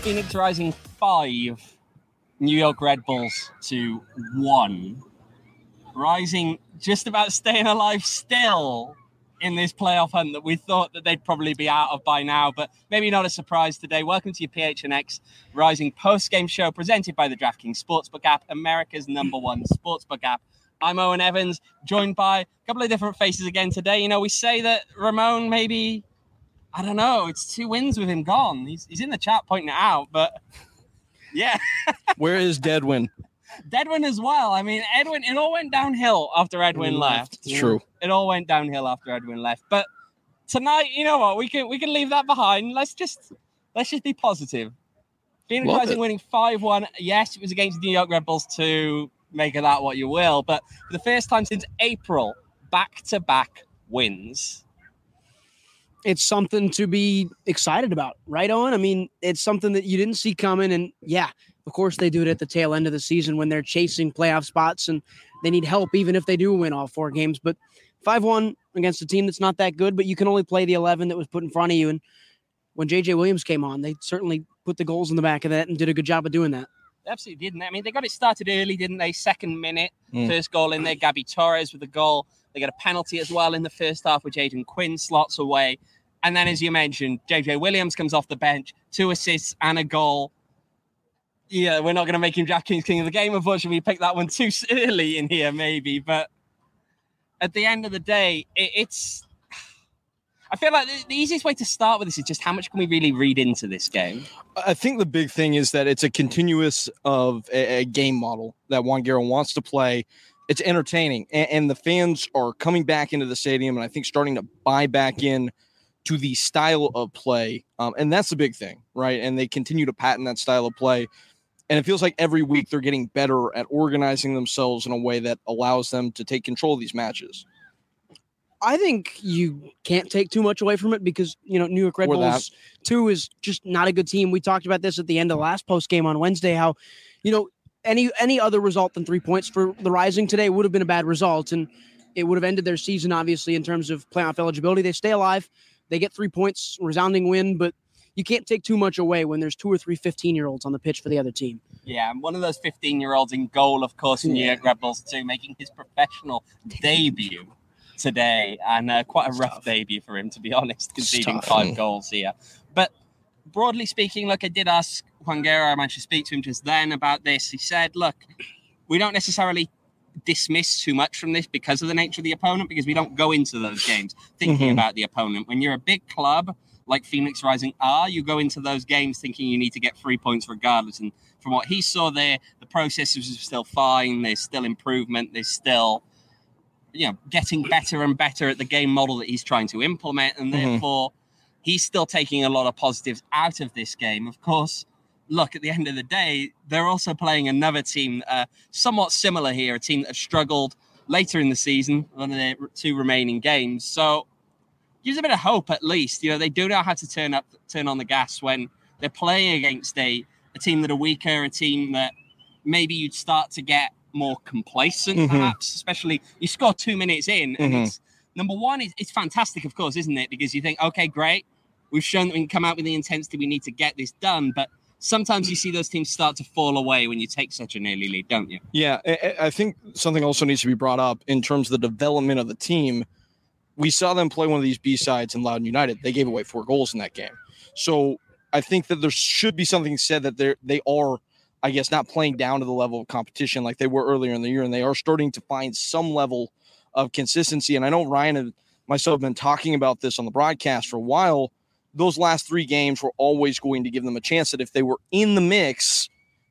Phoenix Rising 5, New York Red Bulls to 1. Rising just about staying alive still in this playoff hunt that we thought that they'd probably be out of by now, but maybe not a surprise today. Welcome to your PHNX Rising post-game show presented by the DraftKings Sportsbook app, America's #1 sportsbook app. I'm Owen Evans, joined by a couple of different faces again today. You know, we say that Ramon maybe, I don't know, it's 2 wins with him gone. He's in the chat pointing it out, but yeah. Where is Deadwin? Deadwin as well. I mean, Edwin, it all went downhill after Edwin left. It's true. It all went downhill after Edwin left. But tonight, you know what? We can leave that behind. Let's just be positive. Phoenix Rising winning 5-1. Yes, it was against the New York Red Bulls too. Make of that what you will. But for the first time since April, back-to-back wins. It's something to be excited about, right, Owen? I mean, it's something that you didn't see coming. And yeah, of course they do it at the tail end of the season when they're chasing playoff spots and they need help even if they do win all 4 games. But 5-1 against a team that's not that good, but you can only play the 11 that was put in front of you. And when J.J. Williams came on, they certainly put the goals in the back of that and did a good job of doing that. Absolutely didn't. I mean, they got it started early, didn't they? Second minute, first goal in there. Gabby Torres with the goal. They got a penalty as well in the first half, which Aiden Quinn slots away. And then, as you mentioned, J.J. Williams comes off the bench, 2 assists and a goal. Yeah, we're not going to make him DraftKings King of the Game. Unfortunately, we picked that one too early in here, maybe. But at the end of the day, it's... I feel like the easiest way to start with this is just how much can we really read into this game? I think the big thing is that it's a continuous of a game model that Juan Guerrero wants to play. It's entertaining, and the fans are coming back into the stadium, and I think starting to buy back in to the style of play. And that's the big thing, right? And they continue to patent that style of play. And it feels like every week they're getting better at organizing themselves in a way that allows them to take control of these matches. I think you can't take too much away from it because, you know, New York Red Bulls 2 is just not a good team. We talked about this at the end of the last post game on Wednesday, how, you know, any other result than 3 points for the Rising today would have been a bad result. And it would have ended their season, obviously, in terms of playoff eligibility. They stay alive. They get 3 points, resounding win, but you can't take too much away when there's 2 or 3 15-year-olds on the pitch for the other team. Yeah, and one of those 15-year-olds in goal, of course, in New York Red Bulls 2, making his professional debut today, and quite a rough debut for him, to be honest, conceding 5 goals here. But broadly speaking, look, I did ask Juan Guerrero, I managed to speak to him just then about this. He said, look, we don't necessarily dismiss too much from this because of the nature of the opponent, because we don't go into those games thinking about the opponent. When you're a big club like Phoenix Rising are, you go into those games thinking you need to get 3 points regardless. And from what he saw there, the process was still fine. There's still improvement. There's still, you know, getting better and better at the game model that he's trying to implement. And therefore, he's still taking a lot of positives out of this game. Of course, look, at the end of the day, they're also playing another team somewhat similar here, a team that have struggled later in the season on their 2 remaining games. So gives a bit of hope, at least. You know, they do know how to turn on the gas when they're playing against a team that are weaker, a team that maybe you'd start to get more complacent, perhaps, especially you score 2 minutes in. And it's, number one, it's fantastic, of course, isn't it? Because you think, okay, great. We've shown that we can come out with the intensity we need to get this done. But sometimes you see those teams start to fall away when you take such an early lead, don't you? Yeah, I think something also needs to be brought up in terms of the development of the team. We saw them play one of these B-sides in Loudoun United. They gave away 4 goals in that game. So I think that there should be something said that they are, I guess, not playing down to the level of competition like they were earlier in the year, and they are starting to find some level of consistency. And I know Ryan and myself have been talking about this on the broadcast for a while. Those last 3 games were always going to give them a chance that if they were in the mix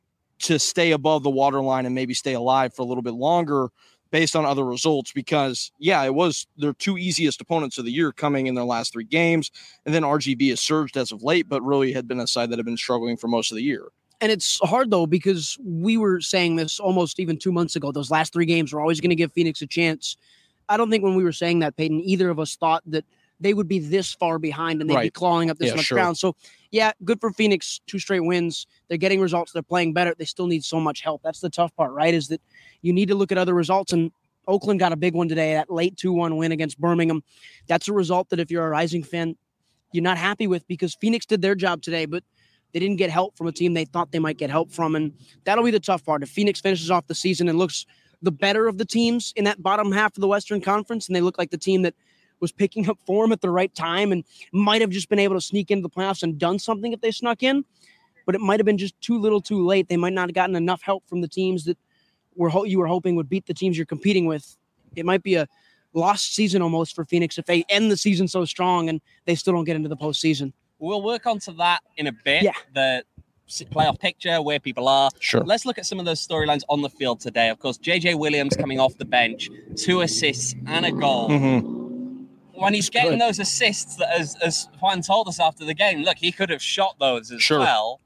to stay above the waterline and maybe stay alive for a little bit longer based on other results, because, yeah, it was their 2 easiest opponents of the year coming in their last 3 games. And then RGV has surged as of late, but really had been a side that had been struggling for most of the year. And it's hard, though, because we were saying this almost even 2 months ago. Those last 3 games were always going to give Phoenix a chance. I don't think when we were saying that, Peyton, either of us thought that they would be this far behind and they'd be clawing up this much ground. So, yeah, good for Phoenix. 2 straight wins. They're getting results. They're playing better. They still need so much help. That's the tough part, right, is that you need to look at other results. And Oakland got a big one today, that late 2-1 win against Birmingham. That's a result that if you're a Rising fan, you're not happy with, because Phoenix did their job today. But They didn't get help from a team they thought they might get help from, and that'll be the tough part. If Phoenix finishes off the season and looks the better of the teams in that bottom half of the Western Conference, and they look like the team that was picking up form at the right time and might have just been able to sneak into the playoffs and done something if they snuck in, but it might have been just too little too late. They might not have gotten enough help from the teams that you were hoping would beat the teams you're competing with. It might be a lost season almost for Phoenix if they end the season so strong and they still don't get into the postseason. We'll work onto that in a bit. Yeah. The playoff picture, where people are. Sure. Let's look at some of those storylines on the field today. Of course, JJ Williams coming off the bench, 2 assists and a goal. When he's getting those assists, as Juan told us after the game, look, he could have shot those as well.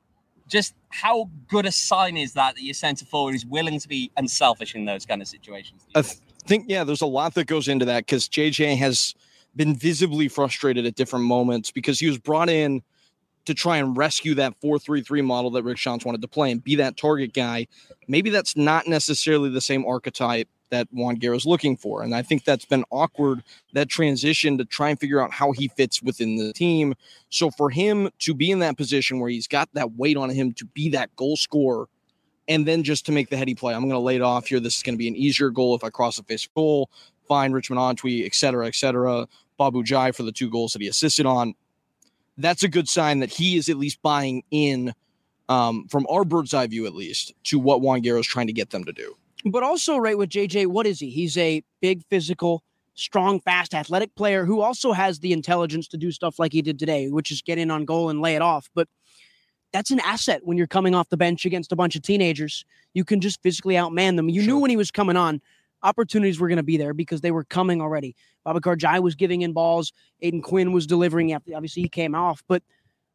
Just how good a sign is that your centre forward is willing to be unselfish in those kind of situations? I think, there's a lot that goes into that because JJ has been visibly frustrated at different moments because he was brought in to try and rescue that 4-3-3 model that Rick Schantz wanted to play and be that target guy. Maybe that's not necessarily the same archetype that Juan Guerra is looking for. And I think that's been awkward, that transition to try and figure out how he fits within the team. So for him to be in that position where he's got that weight on him to be that goal scorer and then just to make the heady play, I'm going to lay it off here. This is going to be an easier goal if I cross the face goal, fine, Richmond Antwi, et cetera, Babu Jai for the 2 goals that he assisted on. That's a good sign that he is at least buying in from our bird's eye view, at least, to what Juan Guerra is trying to get them to do. But also, right, with JJ, what is he? He's a big, physical, strong, fast, athletic player who also has the intelligence to do stuff like he did today, which is get in on goal and lay it off. But that's an asset when you're coming off the bench against a bunch of teenagers. You can just physically outman them. You knew when he was coming on, opportunities were going to be there because they were coming already. Babacar Jai was giving in balls. Aiden Quinn was delivering after, obviously, he came off. But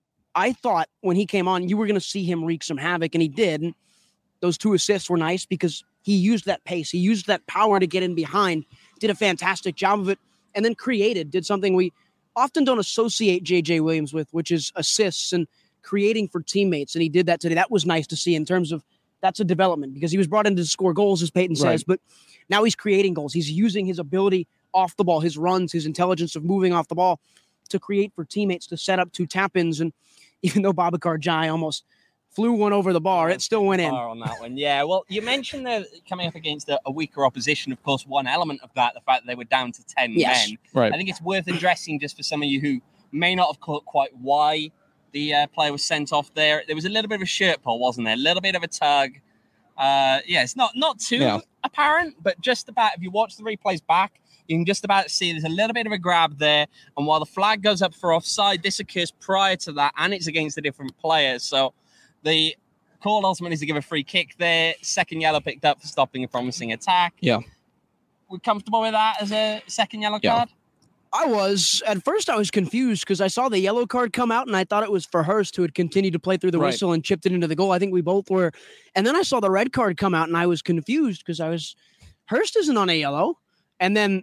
I thought when he came on, you were going to see him wreak some havoc, and he did. And those 2 assists were nice because he used that pace. He used that power to get in behind, did a fantastic job of it, and then did something we often don't associate J.J. Williams with, which is assists and creating for teammates. And he did that today. That was nice to see in terms of that's a development because he was brought in to score goals, as Peyton says, but now he's creating goals. He's using his ability off the ball, his runs, his intelligence of moving off the ball to create for teammates, to set up 2 tap-ins. And even though Babacar Jai almost flew one over the bar, it still went in. On that one. Yeah, well, you mentioned they're coming up against a weaker opposition. Of course, one element of that, the fact that they were down to 10 men. Right. I think it's worth addressing just for some of you who may not have caught quite why the player was sent off there. There was a little bit of a shirt pull, wasn't there? A little bit of a tug. It's not too apparent, but just about, if you watch the replays back, you can just about see there's a little bit of a grab there. And while the flag goes up for offside, this occurs prior to that, and it's against the different players. So the call ultimately is to give a free kick there. 2nd yellow picked up for stopping a promising attack. Yeah. We're comfortable with that as a 2nd yellow card? At first I was confused because I saw the yellow card come out and I thought it was for Hurst, who had continued to play through the whistle and chipped it into the goal. I think we both were. And then I saw the red card come out and I was confused because Hurst isn't on a yellow. And then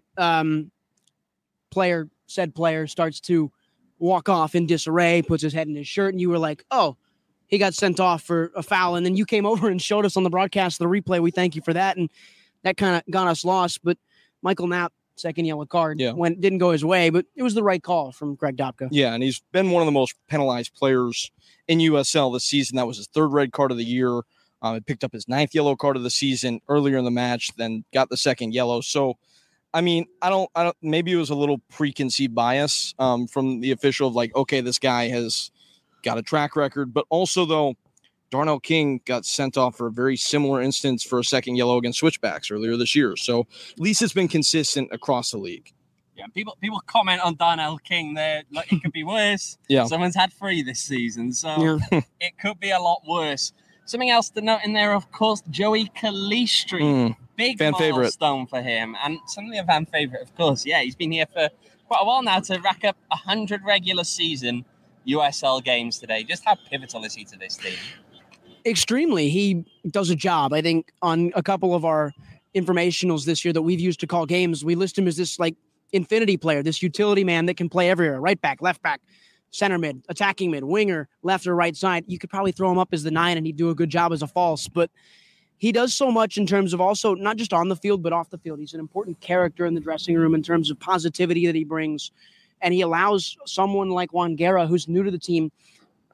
said player starts to walk off in disarray, puts his head in his shirt, and you were like, oh, he got sent off for a foul. And then you came over and showed us on the broadcast the replay. We thank you for that. And that kind of got us lost. But Michael Knapp, 2nd yellow card, didn't go his way, but it was the right call from Greg Dobka. Yeah, and he's been one of the most penalized players in USL this season. That was his 3rd red card of the year. He picked up his 9th yellow card of the season earlier in the match, then got the 2nd yellow. So, I mean, I don't. Maybe it was a little preconceived bias from the official of like, okay, this guy has got a track record, but also though, Darnell King got sent off for a very similar instance for a 2nd yellow against Switchbacks earlier this year. So at least it's been consistent across the league. Yeah, people comment on Darnell King there like it could be worse. Someone's had 3 this season, so it could be a lot worse. Something else to note in there, of course, Joey Calistri. Big fan milestone for him, and certainly a fan favorite, of course. Yeah, he's been here for quite a while now to rack up 100 regular season USL games today. Just how pivotal is he to this team? Extremely. He does a job. I think on a couple of our informationals this year that we've used to call games, we list him as this like infinity player, this utility man that can play everywhere, right back, left back, center mid, attacking mid, winger, left or right side. You could probably throw him up as the 9 and he'd do a good job as a false, but he does so much in terms of also not just on the field, but off the field. He's an important character in the dressing room in terms of positivity that he brings. And he allows someone like Juan Guerra, who's new to the team,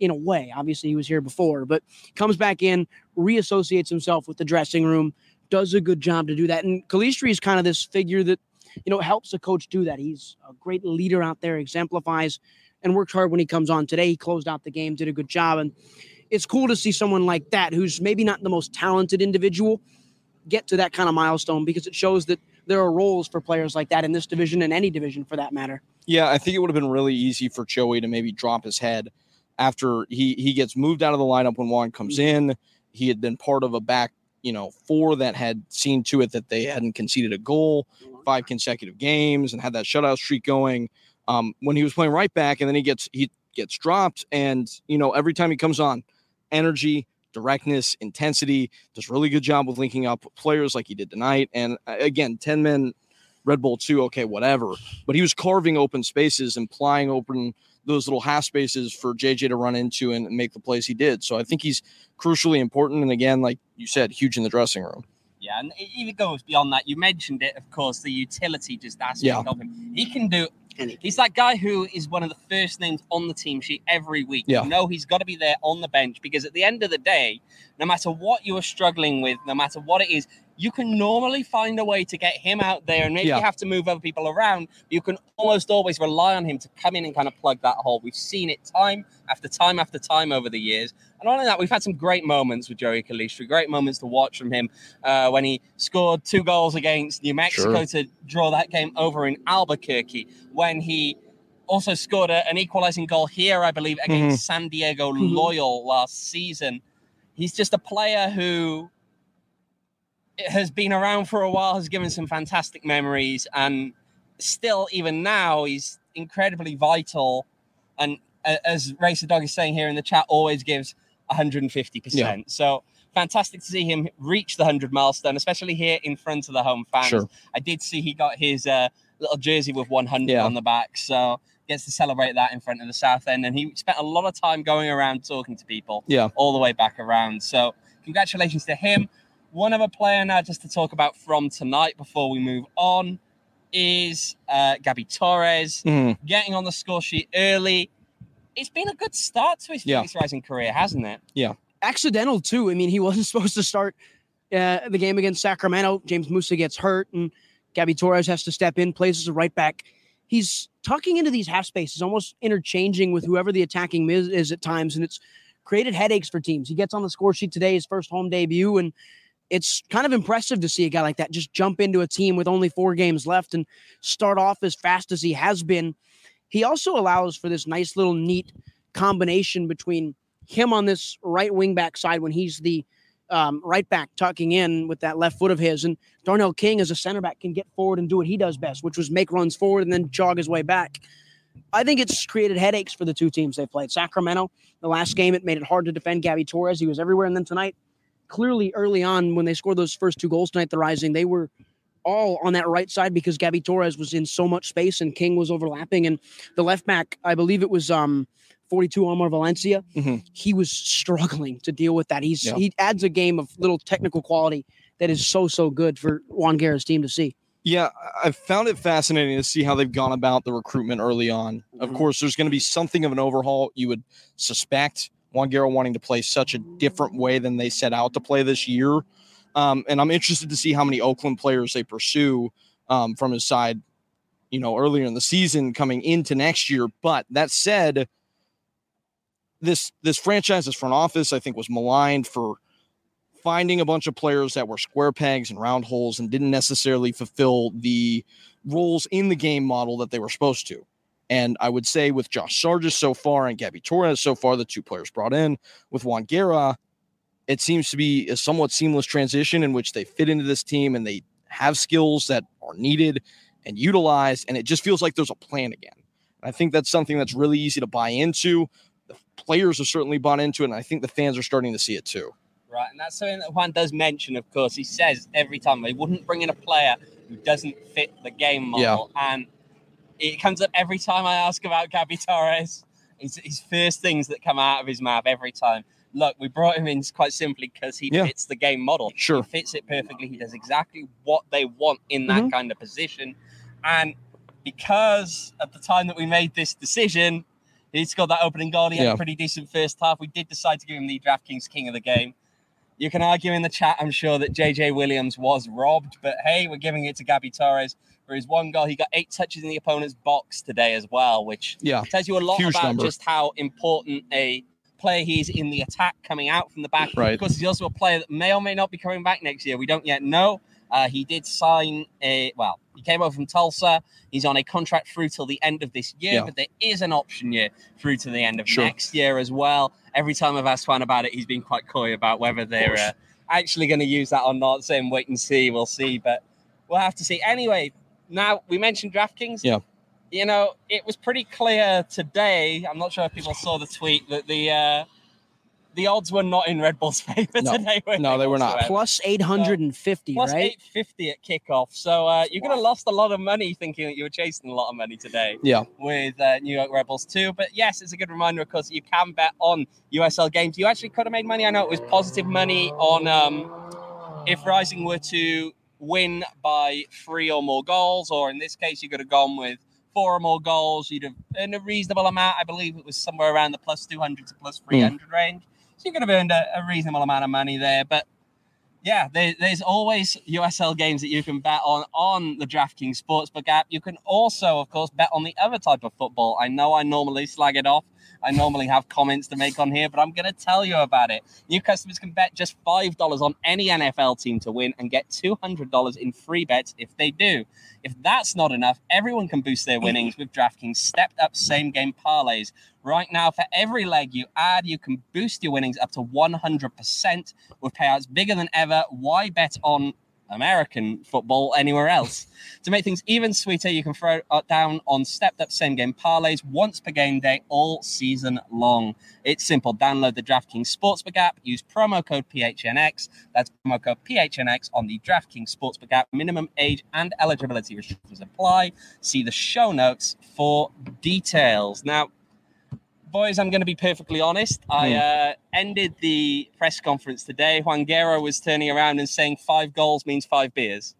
in a way. Obviously, he was here before, but comes back in, reassociates himself with the dressing room, does a good job to do that. And Calistri is kind of this figure that, helps a coach do that. He's a great leader out there, exemplifies, and works hard when he comes on. Today, he closed out the game, did a good job. And it's cool to see someone like that, who's maybe not the most talented individual, get to that kind of milestone, because it shows that there are roles for players like that in this division and any division for that matter. Yeah, I think it would have been really easy for Joey to maybe drop his head after he gets moved out of the lineup when Juan comes in. He had been part of a back, four that had seen to it that they hadn't conceded a goal 5 consecutive games and had that shutout streak going. When he was playing right back, and then he gets dropped, and every time he comes on, energy, directness, intensity, does a really good job with linking up with players like he did tonight. And again, 10 men, Red Bull 2, okay, whatever. But he was carving open spaces and plying open those little half spaces for JJ to run into and make the plays he did. So I think he's crucially important. And again, like you said, huge in the dressing room. Yeah, and it even goes beyond that. You mentioned it, of course, the utility just aspect of him. He can do anything. He's that guy who is one of the first names on the team sheet every week. Yeah. He's got to be there on the bench, because at the end of the day, no matter what you are struggling with, no matter what it is, you can normally find a way to get him out there, and maybe you have to move other people around. But you can almost always rely on him to come in and kind of plug that hole. We've seen it time after time after time over the years. And not only that, we've had some great moments with Joey Calistri, great moments to watch from him when he scored 2 goals against New Mexico to draw that game over in Albuquerque, when he also scored an equalizing goal here, I believe, against San Diego Loyal last season. He's just a player who has been around for a while, has given some fantastic memories, and still, even now, he's incredibly vital. And as Racer Dog is saying here in the chat, always gives 150%. Yeah. So fantastic to see him reach the 100 milestone, especially here in front of the home fans. Sure. I did see he got his little jersey with 100 on the back, so gets to celebrate that in front of the South End. And he spent a lot of time going around talking to people all the way back around. So congratulations to him. One other player now just to talk about from tonight before we move on is Gabby Torres getting on the score sheet early. It's been a good start to his Phoenix Rising career, hasn't it? Yeah. Accidental, too. I mean, he wasn't supposed to start the game against Sacramento. James Musa gets hurt, and Gabby Torres has to step in, plays as a right back. He's tucking into these half spaces, almost interchanging with whoever the attacking mid is at times, and it's created headaches for teams. He gets on the score sheet today, his first home debut, and it's kind of impressive to see a guy like that just jump into a team with only 4 games left and start off as fast as he has been. He also allows for this nice little neat combination between him on this right wing back side when he's the right back tucking in with that left foot of his, and Darnell King as a center back can get forward and do what he does best, which was make runs forward and then jog his way back. I think it's created headaches for the two teams they played. Sacramento, the last game, it made it hard to defend Gabby Torres. He was everywhere. And then tonight, clearly early on when they scored those first 2 goals tonight, the Rising, they were all on that right side because Gabby Torres was in so much space and King was overlapping. And the left back, I believe it was 42 Omar Valencia. He was struggling to deal with that. He adds a game of little technical quality that is so good for Juan Guerra's team to see. Yeah, I found it fascinating to see how they've gone about the recruitment early on. Of course, there's going to be something of an overhaul, you would suspect. Juan Guerra wanting to play such a different way than they set out to play this year. And I'm interested to see how many Oakland players they pursue from his side, earlier in the season coming into next year. But that said, this franchise's front office, I think, was maligned for finding a bunch of players that were square pegs and round holes and didn't necessarily fulfill the roles in the game model that they were supposed to. And I would say with Josh Sargis so far and Gabby Torres so far, the 2 players brought in, with Juan Guerra, it seems to be a somewhat seamless transition in which they fit into this team and they have skills that are needed and utilized, and it just feels like there's a plan again. And I think that's something that's really easy to buy into. The players are certainly bought into it, and I think the fans are starting to see it too. Right, and that's something that Juan does mention, of course. He says every time they wouldn't bring in a player who doesn't fit the game model. Yeah. And it comes up every time I ask about Gabby Torres. It's his first things that come out of his mouth every time. Look, we brought him in quite simply because he fits the game model. Sure. He fits it perfectly. He does exactly what they want in that kind of position. And because at the time that we made this decision, He scored that opening goal. He had a pretty decent first half. We did decide to give him the DraftKings King of the Game. You can argue in the chat, I'm sure, that JJ Williams was robbed, but hey, we're giving it to Gabby Torres for his one goal. He got 8 touches in the opponent's box today as well, which tells you a lot about just how important a player he is in the attack coming out from the back. Right. Of course, he's also a player that may or may not be coming back next year. We don't yet know. He did sign he came over from Tulsa. He's on a contract through till the end of this year, but there is an option year through to the end of next year as well. Every time I've asked Juan about it, he's been quite coy about whether they're actually going to use that or not, saying wait and see, we'll see, but we'll have to see. Anyway, now we mentioned DraftKings. Yeah. You know, it was pretty clear today, I'm not sure if people saw the tweet, that the odds were not in Red Bull's favor today. No, they were not. Plus 850, plus right? 850 at kickoff. So you could have lost a lot of money thinking that you were chasing a lot of money today. Yeah. With New York Red Bulls too. But yes, it's a good reminder, of course, that you can bet on USL games. You actually could have made money. I know it was positive money on if Rising were to win by 3 or more goals, or in this case, you could have gone with 4 or more goals. You'd have earned a reasonable amount. I believe it was somewhere around the plus 200 to plus 300 range. So you could have earned a reasonable amount of money there. But yeah, there's always USL games that you can bet on the DraftKings Sportsbook app. You can also, of course, bet on the other type of football. I know I normally slag it off. I normally have comments to make on here, but I'm going to tell you about it. New customers can bet just $5 on any NFL team to win and get $200 in free bets if they do. If that's not enough, everyone can boost their winnings with DraftKings stepped-up same-game parlays. Right now, for every leg you add, you can boost your winnings up to 100% with payouts bigger than ever. Why bet on American football anywhere else? To make things even sweeter, you can throw down on stepped-up same-game parlays once per game day all season long. It's simple. Download the DraftKings Sportsbook app. Use promo code PHNX. That's promo code PHNX on the DraftKings Sportsbook app. Minimum age and eligibility restrictions apply. See the show notes for details. Now, boys, I'm going to be perfectly honest. I ended the press conference today. Juan Guerra was turning around and saying 5 goals means 5 beers.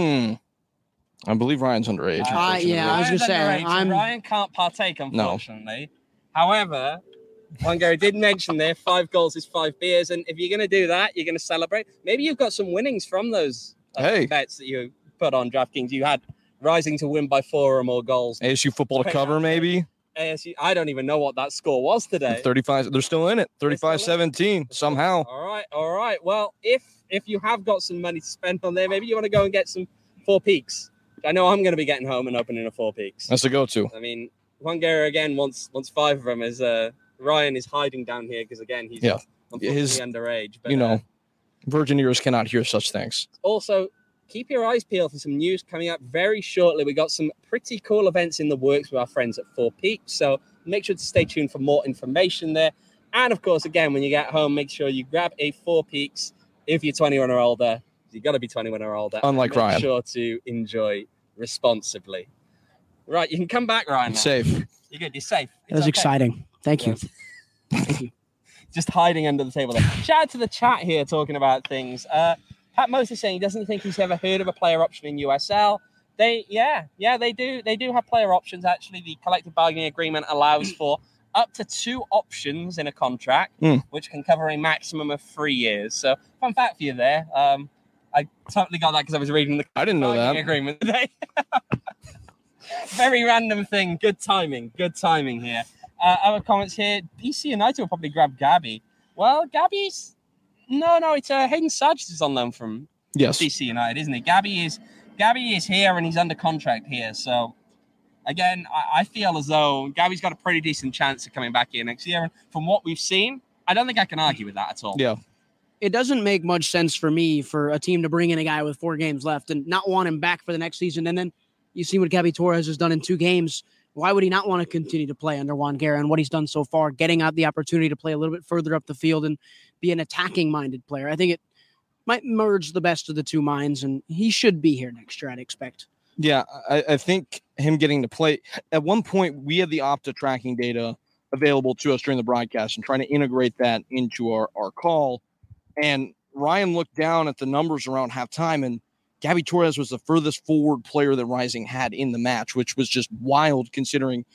I believe Ryan's underage. I was going to say. Ryan can't partake, unfortunately. No. However, Juan Guerra did mention there 5 goals is 5 beers. And if you're going to do that, you're going to celebrate. Maybe you've got some winnings from those bets that you put on DraftKings. You had Rising to win by 4 or more goals. ASU football to cover, maybe? ASU, I don't even know what that score was today. 35. They're still in it. 35-17 somehow. All right. Well, if you have got some money to spend on there, maybe you want to go and get some Four Peaks. I know I'm going to be getting home and opening a Four Peaks. That's a go-to. I mean, Juan Guerra again wants 5 of them. As Ryan is hiding down here because again he's unfortunately underage. But virgin ears cannot hear such things. Also, keep your eyes peeled for some news coming up very shortly. We got some pretty cool events in the works with our friends at Four Peaks, so make sure to stay tuned for more information there. And of course, again, when you get home, make sure you grab a Four Peaks if you're 21 or older. You've got to be 21 or older. Unlike Ryan. Make sure to enjoy responsibly. Right, you can come back, Ryan. Safe. You're good. You're safe. That was exciting. Thank you. Thank you. Just hiding under the table there. Shout out to the chat here talking about things. Pat Moses saying he doesn't think he's ever heard of a player option in USL. They do. They do have player options. Actually, the collective bargaining agreement allows for up to 2 options in a contract, which can cover a maximum of 3 years. So, fun fact for you there. I totally got that because I was reading the agreement today. Very random thing. Good timing here. Other comments here. DC United will probably grab Gabby. Well, Gabby's... No, it's Hayden Sargis is on loan from DC United, isn't he? Gabby is here and he's under contract here. So, again, I feel as though Gabby's got a pretty decent chance of coming back here next year. And from what we've seen, I don't think I can argue with that at all. Yeah. It doesn't make much sense for me for a team to bring in a guy with 4 games left and not want him back for the next season. And then you see what Gabby Torres has done in 2 games. Why would he not want to continue to play under Juan Guerra and what he's done so far, getting out the opportunity to play a little bit further up the field and be an attacking-minded player? I think it might merge the best of the 2 minds, and he should be here next year, I'd expect. Yeah, I think him getting to play – at one point, we had the Opta tracking data available to us during the broadcast and trying to integrate that into our call. And Ryan looked down at the numbers around halftime, and Gabby Torres was the furthest forward player that Rising had in the match, which was just wild considering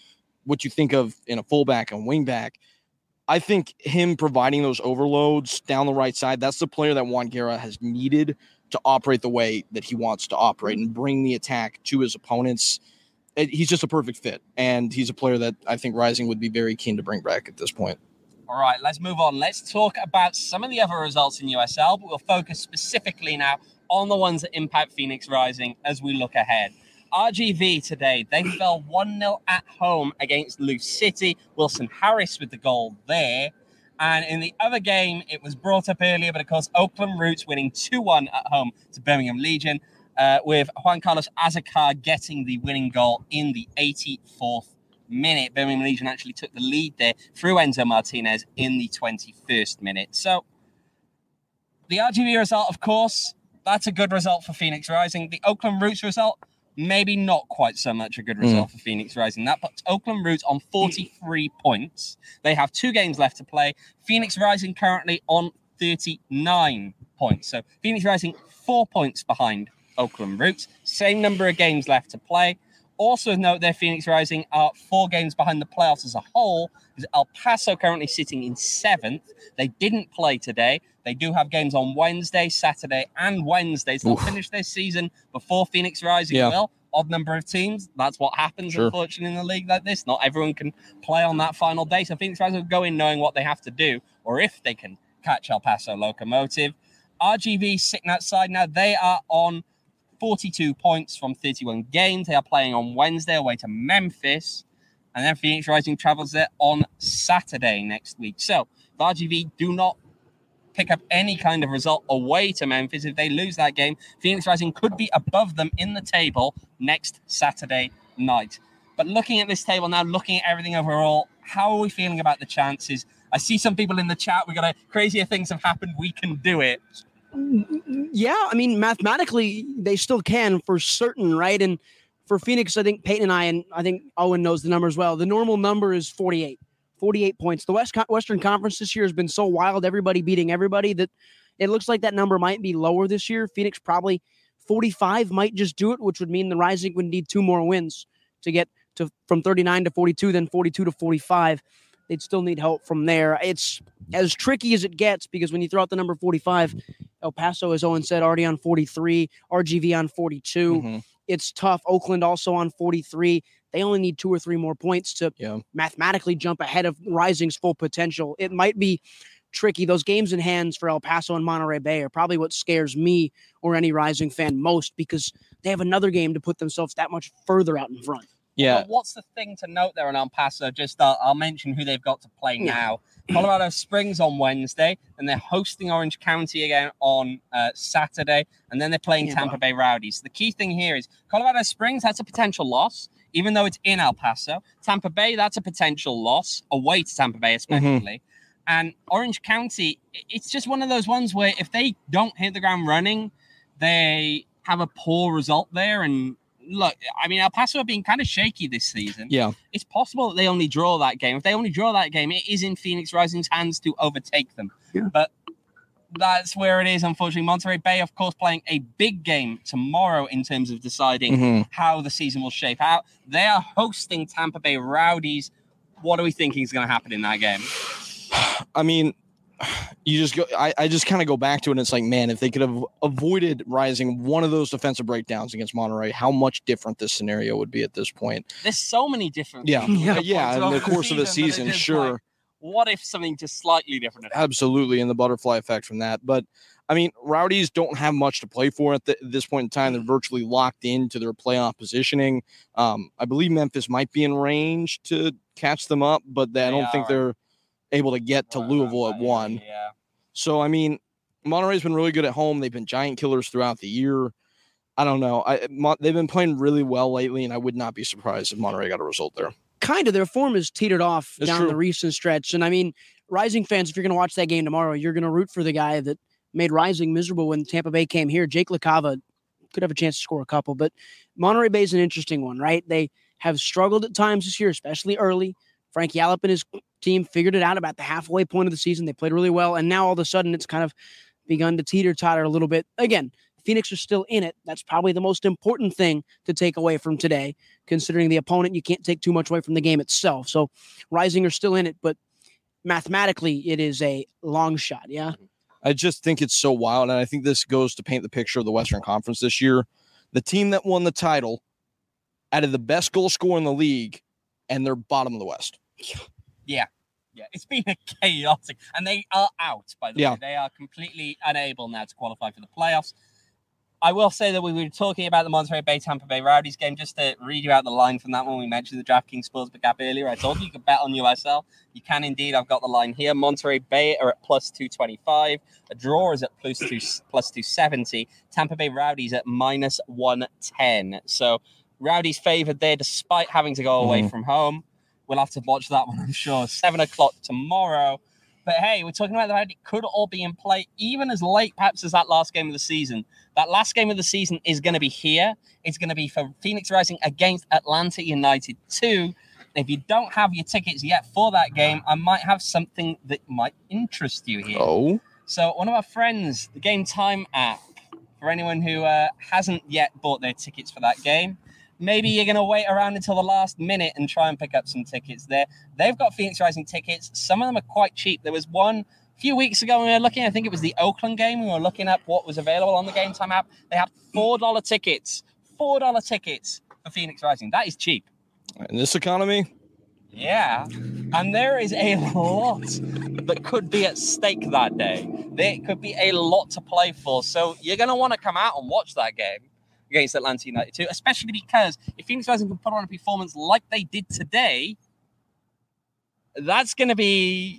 what you think of in a fullback and wingback. I think him providing those overloads down the right side, that's the player that Juan Guerra has needed to operate the way that he wants to operate and bring the attack to his opponents. He's just a perfect fit, and he's a player that I think Rising would be very keen to bring back at this point. All right, let's move on. Let's talk about some of the other results in USL, but we'll focus specifically now on the ones that impact Phoenix Rising as we look ahead. RGV today, they fell 1-0 at home against Loose City. Wilson Harris with the goal there. And in the other game, it was brought up earlier, but of course, Oakland Roots winning 2-1 at home to Birmingham Legion, with Juan Carlos Azakar getting the winning goal in the 84th minute. Birmingham Legion actually took the lead there through Enzo Martinez in the 21st minute. So the RGV result, of course, that's a good result for Phoenix Rising. The Oakland Roots result, maybe not quite so much a good result for Phoenix Rising. That puts Oakland Roots on 43 points. They have 2 games left to play. Phoenix Rising currently on 39 points. So Phoenix Rising 4 points behind Oakland Roots. Same number of games left to play. Also note there, Phoenix Rising are 4 games behind the playoffs as a whole. El Paso currently sitting in 7th. They didn't play today. They do have games on Wednesday, Saturday, and Wednesday. So they'll finish their season before Phoenix Rising will. Odd number of teams. That's what happens, unfortunately, in a league like this. Not everyone can play on that final day. So Phoenix Rising will go in knowing what they have to do, or if they can catch El Paso Locomotive. RGV sitting outside now. They are on 42 points from 31 games. They are playing on Wednesday away to Memphis. And then Phoenix Rising travels there on Saturday next week. So if RGV do not pick up any kind of result away to Memphis, if they lose that game, Phoenix Rising could be above them in the table next Saturday night. But looking at this table now, looking at everything overall, how are we feeling about the chances? I see some people in the chat, we got a crazier things have happened, we can do it. Yeah, I mean, mathematically, they still can for certain, right? And for Phoenix, I think Peyton and I think Owen knows the number as well. The normal number is 48 points. The Western Conference this year has been so wild, everybody beating everybody, that it looks like that number might be lower this year. Phoenix probably 45 might just do it, which would mean the Rising would need 2 more wins to get to from 39 to 42, then 42 to 45. They'd still need help from there. It's as tricky as it gets because when you throw out the number 45, El Paso, as Owen said, already on 43, RGV on 42. It's tough. Oakland also on 43. They only need 2 or 3 more points to mathematically jump ahead of Rising's full potential. It might be tricky. Those games in hands for El Paso and Monterey Bay are probably what scares me or any Rising fan most because they have another game to put themselves that much further out in front. Yeah. But what's the thing to note there on El Paso? Just I'll mention who they've got to play now. Colorado Springs on Wednesday, and they're hosting Orange County again on Saturday, and then they're playing Tampa Bay Rowdies. The key thing here is Colorado Springs, that's a potential loss, even though it's in El Paso. Tampa Bay, that's a potential loss, away to Tampa Bay especially. And Orange County, it's just one of those ones where if they don't hit the ground running, they have a poor result there. And look, I mean, El Paso have been kind of shaky this season. Yeah. It's possible that they only draw that game. If they only draw that game, it is in Phoenix Rising's hands to overtake them. Yeah. But that's where it is, unfortunately. Monterey Bay, of course, playing a big game tomorrow in terms of deciding how the season will shape out. They are hosting Tampa Bay Rowdies. What are we thinking is going to happen in that game? I mean, you just go. I just kind of go back to it. And it's like, man, if they could have avoided Rising one of those defensive breakdowns against Monterey, how much different this scenario would be at this point. There's so many different. Yeah. In the course of the season, sure. Like, what if something just slightly different? Absolutely, and the butterfly effect from that. But I mean, Rowdies don't have much to play for at this point in time. They're virtually locked into their playoff positioning. I believe Memphis might be in range to catch them up, but I don't think they're able to get to Louisville at 1. Yeah. So, I mean, Monterey's been really good at home. They've been giant killers throughout the year. I don't know. They've been playing really well lately, and I would not be surprised if Monterey got a result there. Kind of. Their form is teetered off down the recent stretch. And, I mean, Rising fans, if you're going to watch that game tomorrow, you're going to root for the guy that made Rising miserable when Tampa Bay came here. Jake LaCava could have a chance to score a couple. But Monterey Bay is an interesting one, right? They have struggled at times this year, especially early. Frank Yallop and his team figured it out about the halfway point of the season. They played really well, and now all of a sudden it's kind of begun to teeter-totter a little bit. Again, Phoenix are still in it. That's probably the most important thing to take away from today, considering the opponent. You can't take too much away from the game itself. So Rising are still in it, but mathematically it is a long shot. Yeah. I just think it's so wild. And I think this goes to paint the picture of the Western Conference this year. The team that won the title added the best goal scorer in the league, and they're bottom of the West. Yeah. It's been a chaotic, and they are out, by the way. They are completely unable now to qualify for the playoffs. I will say that we were talking about the Monterey Bay Tampa Bay Rowdies game. Just to read you out the line from that one, we mentioned the DraftKings Sportsbook app earlier. I told you could bet on USL. You can indeed. I've got the line here. Monterey Bay are at plus 225. A draw is at plus 270. Tampa Bay Rowdies at minus 110. So Rowdies favored there despite having to go away from home. We'll have to watch that one, I'm sure. 7 o'clock tomorrow. But hey, we're talking about the fact it could all be in play even as late perhaps as that last game of the season. That last game of the season is going to be here. It's going to be for Phoenix Rising against Atlanta United 2. If you don't have your tickets yet for that game, I might have something that might interest you here. Oh. So one of our friends, the Game Time app, for anyone who hasn't yet bought their tickets for that game, maybe you're going to wait around until the last minute and try and pick up some tickets there. They've got Phoenix Rising tickets. Some of them are quite cheap. There was one a few weeks ago when we were looking, I think it was the Oakland game. We were looking up what was available on the Game Time app. They had $4 tickets. $4 tickets for Phoenix Rising. That is cheap. In this economy? Yeah. And there is a lot that could be at stake that day. There could be a lot to play for. So you're going to want to come out and watch that game against Atlanta United 2, especially because if Phoenix Rising can put on a performance like they did today, that's going to be,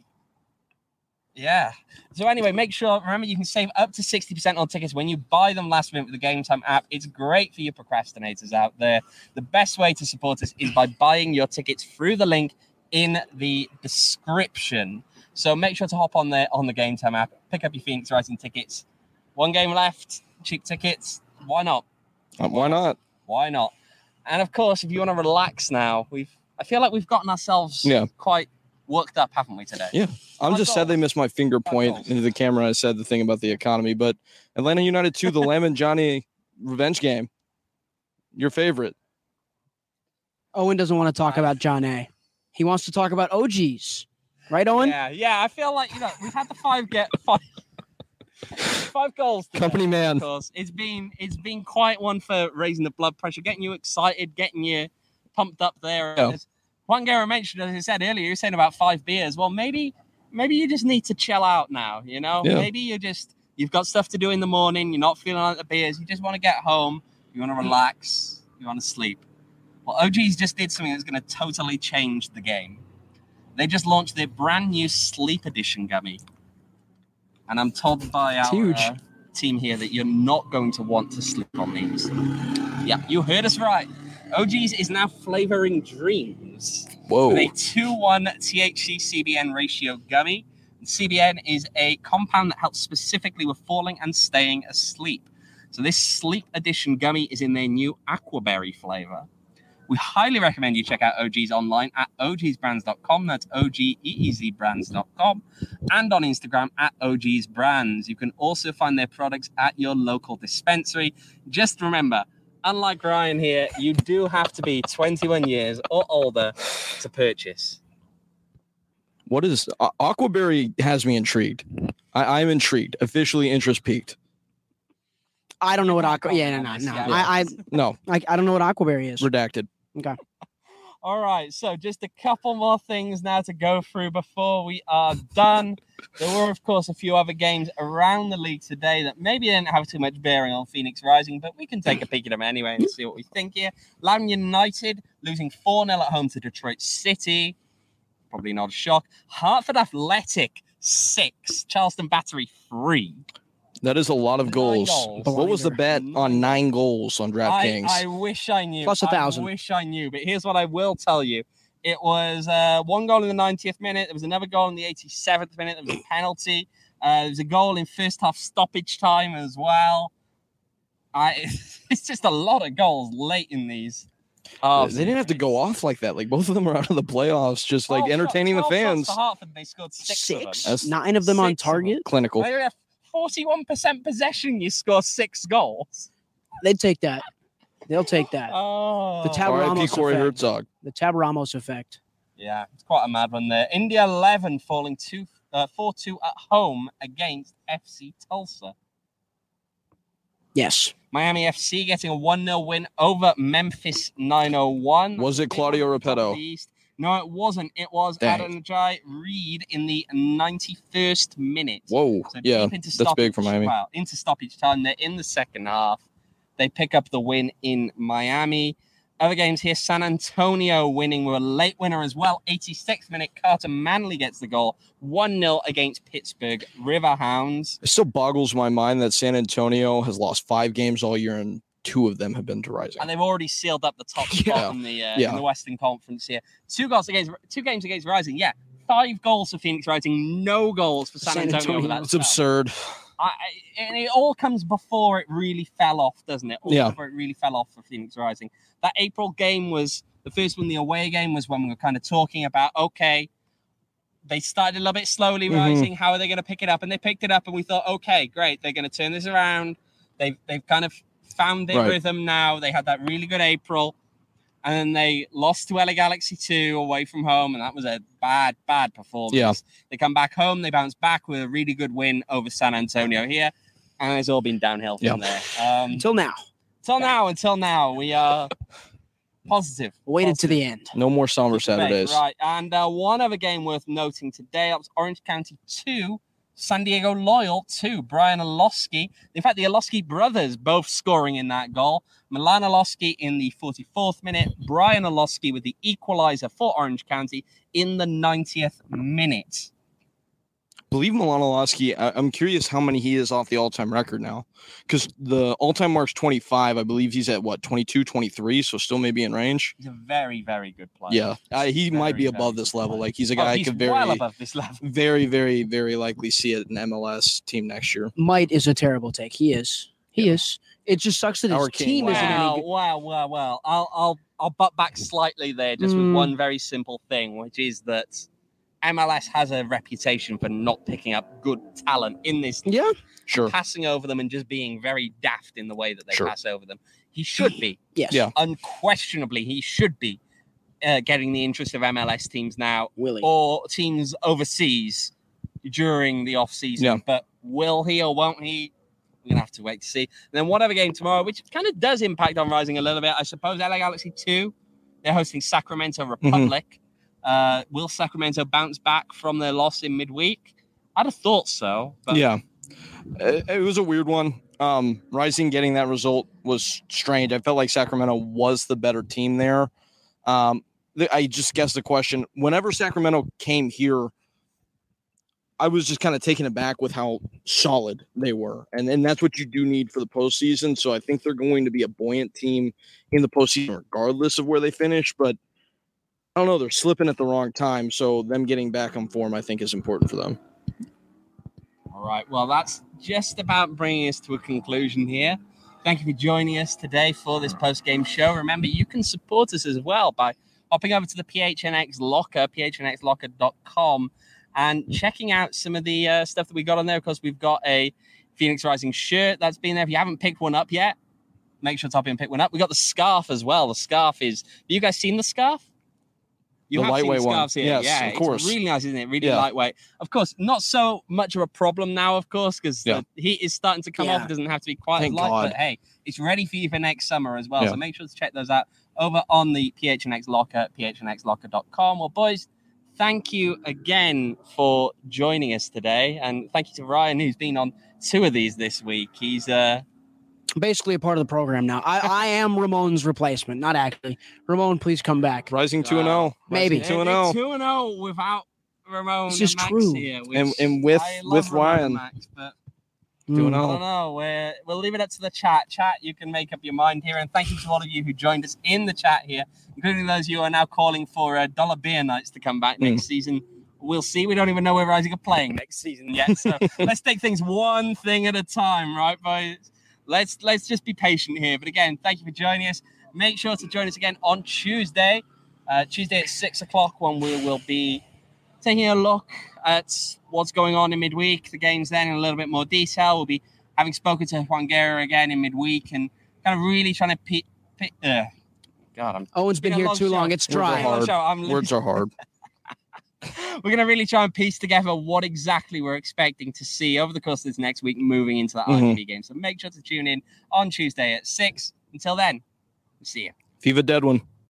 So anyway, remember you can save up to 60% on tickets when you buy them last minute with the Game Time app. It's great for you procrastinators out there. The best way to support us is by buying your tickets through the link in the description. So make sure to hop on there on the Game Time app, pick up your Phoenix Rising tickets. One game left, cheap tickets. Why not? Why not? Why not? And of course, if you want to relax now, I feel like we've gotten ourselves quite worked up, haven't we, today? Yeah. I'm just sad they missed my finger point into the camera. I said the thing about the economy, but Atlanta United 2, the Lamb Johnny revenge game. Your favorite. Owen doesn't want to talk about John A. He wants to talk about OGs. Right, Owen? Yeah. I feel like, we've had the five goals today, company man. Of course. It's been quite one for raising the blood pressure, getting you excited, getting you pumped up there. Yeah. Juan Guerra mentioned, as I said earlier, you're saying about 5 beers. Well, maybe you just need to chill out now, Yeah. Maybe you've got stuff to do in the morning, you're not feeling like the beers, you just want to get home, you want to relax, you want to sleep. Well, OGs just did something that's going to totally change the game. They just launched their brand new Sleep Edition gummy. And I'm told by our team here that you're not going to want to sleep on these. Yeah, you heard us right. OGs is now flavoring dreams. Whoa. With a 2:1 THC CBN ratio gummy. CBN is a compound that helps specifically with falling and staying asleep. So this Sleep Edition gummy is in their new Aquaberry flavor. We highly recommend you check out OGs online at ogsbrands.com. That's OGEEZbrands.com. And on Instagram at OGsBrands. You can also find their products at your local dispensary. Just remember, unlike Ryan here, you do have to be 21 years or older to purchase. What is Aquaberry? Has me intrigued. I'm intrigued. Officially interest peaked. I don't know what Aquaberry. No. I don't know what Aquaberry is. Redacted. Okay. All right. So just a couple more things now to go through before we are done. There were, of course, a few other games around the league today that maybe didn't have too much bearing on Phoenix Rising, but we can take a peek at them anyway and see what we think here. Loudoun United losing 4-0 at home to Detroit City. Probably not a shock. Hartford Athletic 6, Charleston Battery 3. That is a lot of goals. What was the bet on 9 goals on DraftKings? I wish I knew. Plus 1,000. I wish I knew. But here's what I will tell you. It was 1 goal in the 90th minute. There was another goal in the 87th minute. There was a penalty. There was a goal in first half stoppage time as well. It's just a lot of goals late in these. They didn't have to go off like that. Like both of them are out of the playoffs, just like entertaining the fans. For Hartford, they scored 6 of them. 9 of them on target. Clinical. 41% possession, you score 6 goals. They'd take that. They'll take that. Oh, The Tab R.I.P. Ramos Corey effect. Herzog. The Tab Ramos effect. yeah, it's quite a mad one there. India 11 falling 4-2 at home against FC Tulsa. Yes. Miami FC getting a 1-0 win over Memphis 901. Was it Claudio Repetto? No, it wasn't. It was Dang. Adenjai Reed in the 91st minute. Whoa. So Yeah, deep into that's big for stoppage- Miami. Well, into stoppage time. They're in the second half. They pick up the win in Miami. Other games here, San Antonio winning with a late winner as well. 86th minute, Carter Manley gets the goal. 1-0 against Pittsburgh Riverhounds. It still boggles my mind that San Antonio has lost 5 games all year and 2 of them have been to Rising. And they've already sealed up the top Yeah. spot in the Western Conference here. 2 games against Rising. Yeah, 5 goals for Phoenix Rising, no goals for San Antonio. Over that It's spell. absurd. And it all comes before it really fell off, doesn't it? Yeah. Before it really fell off for Phoenix Rising. That April game was the first one. The away game was when we were kind of talking about, okay, they started a little bit slowly rising. How are they going to pick it up? And they picked it up, and we thought, okay, great, they're going to turn this around. They've kind of found their rhythm now. They had that really good April, and then they lost to LA Galaxy 2 away from home, and that was a bad performance. Yeah. They come back home, they bounce back with a really good win over San Antonio here, and it's all been downhill from there. Until now. Until now, we are positive. Waited to the end. No more somber Saturdays. Right, and one other game worth noting today, that was Orange County 2, San Diego Loyal 2, Brian Olowski. In fact, the Olowski brothers both scoring in that goal. Milan Olowski in the 44th minute, Brian Olowski with the equalizer for Orange County in the 90th minute. I believe Milan Olowski, I'm curious how many he is off the all-time record now. Because the all-time mark's 25. I believe he's at, 22, 23, so still maybe in range. He's a very, very good player. Yeah, he might be above this level. Like, he's a guy I could well above this level. very, very, very likely see it in MLS team next year. Might is a terrible take. He is. He is. It just sucks that his team isn't any good. Well. I'll butt back slightly there just with one very simple thing, which is that MLS has a reputation for not picking up good talent in this league. Yeah. Sure. Passing over them and just being very daft in the way that they pass over them. He should be. Yes. Yeah. Unquestionably, he should be getting the interest of MLS teams now Willie. or teams overseas during the off-season. Yeah. But will he or won't he? We're going to have to wait to see. And then one other game tomorrow, which kind of does impact on Rising a little bit. I suppose LA Galaxy 2, they're hosting Sacramento Republic. Will Sacramento bounce back from their loss in midweek? I'd have thought so. But Yeah. It was a weird one. Rising getting that result was strange. I felt like Sacramento was the better team there. I just guessed the question. Whenever Sacramento came here, I was just kind of taken aback with how solid they were. And that's what you do need for the postseason. So I think they're going to be a buoyant team in the postseason regardless of where they finish. But I don't know. They're slipping at the wrong time. So them getting back on form, I think, is important for them. All right. Well, that's just about bringing us to a conclusion here. Thank you for joining us today for this post-game show. Remember, you can support us as well by hopping over to the PHNX Locker, phnxlocker.com, and checking out some of the stuff that we got on there. Of course, we've got a Phoenix Rising shirt that's been there. If you haven't picked one up yet, make sure to hop in and pick one up. We got the scarf as well. The scarf is... Have you guys seen the scarf? You The have lightweight seen the scarves one. here. Yes, yeah, of course. It's really nice, isn't it? Really lightweight. Of course, not so much of a problem now, of course, because the heat is starting to come off. It doesn't have to be quite Thank as light, God. but hey, it's ready for you for next summer as well. Yeah. So make sure to check those out over on the PHNX Locker, phnxlocker.com. Well, boys, thank you again for joining us today. And thank you to Ryan, who's been on 2 of these this week. He's basically a part of the program now. I am Ramon's replacement, not actually. Ramon, please come back. Rising 2-0. Maybe. Rising 2-0. 2-0 without Ramon This and is Max true. here. And with I love Ramon Ryan. and Max, but 2-0. I don't know. We'll leave it up to the chat. Chat, you can make up your mind here. And thank you to all of you who joined us in the chat here, including those of you who are now calling for dollar beer nights to come back next season. We'll see. We don't even know where Rising are playing next season yet. So let's take things one thing at a time, right, boys? Let's just be patient here. But again, thank you for joining us. Make sure to join us again on Tuesday. Tuesday at 6 o'clock when we will be taking a look at what's going on in midweek, the games then in a little bit more detail. We'll be having spoken to Juan Guerra again in midweek and kind of really trying to God, Owen's been here too long. It's dry. Words are hard. We're going to really try and piece together what exactly we're expecting to see over the course of this next week moving into that RGV game. So make sure to tune in on Tuesday at 6. Until then, we'll see you. Viva Dead One.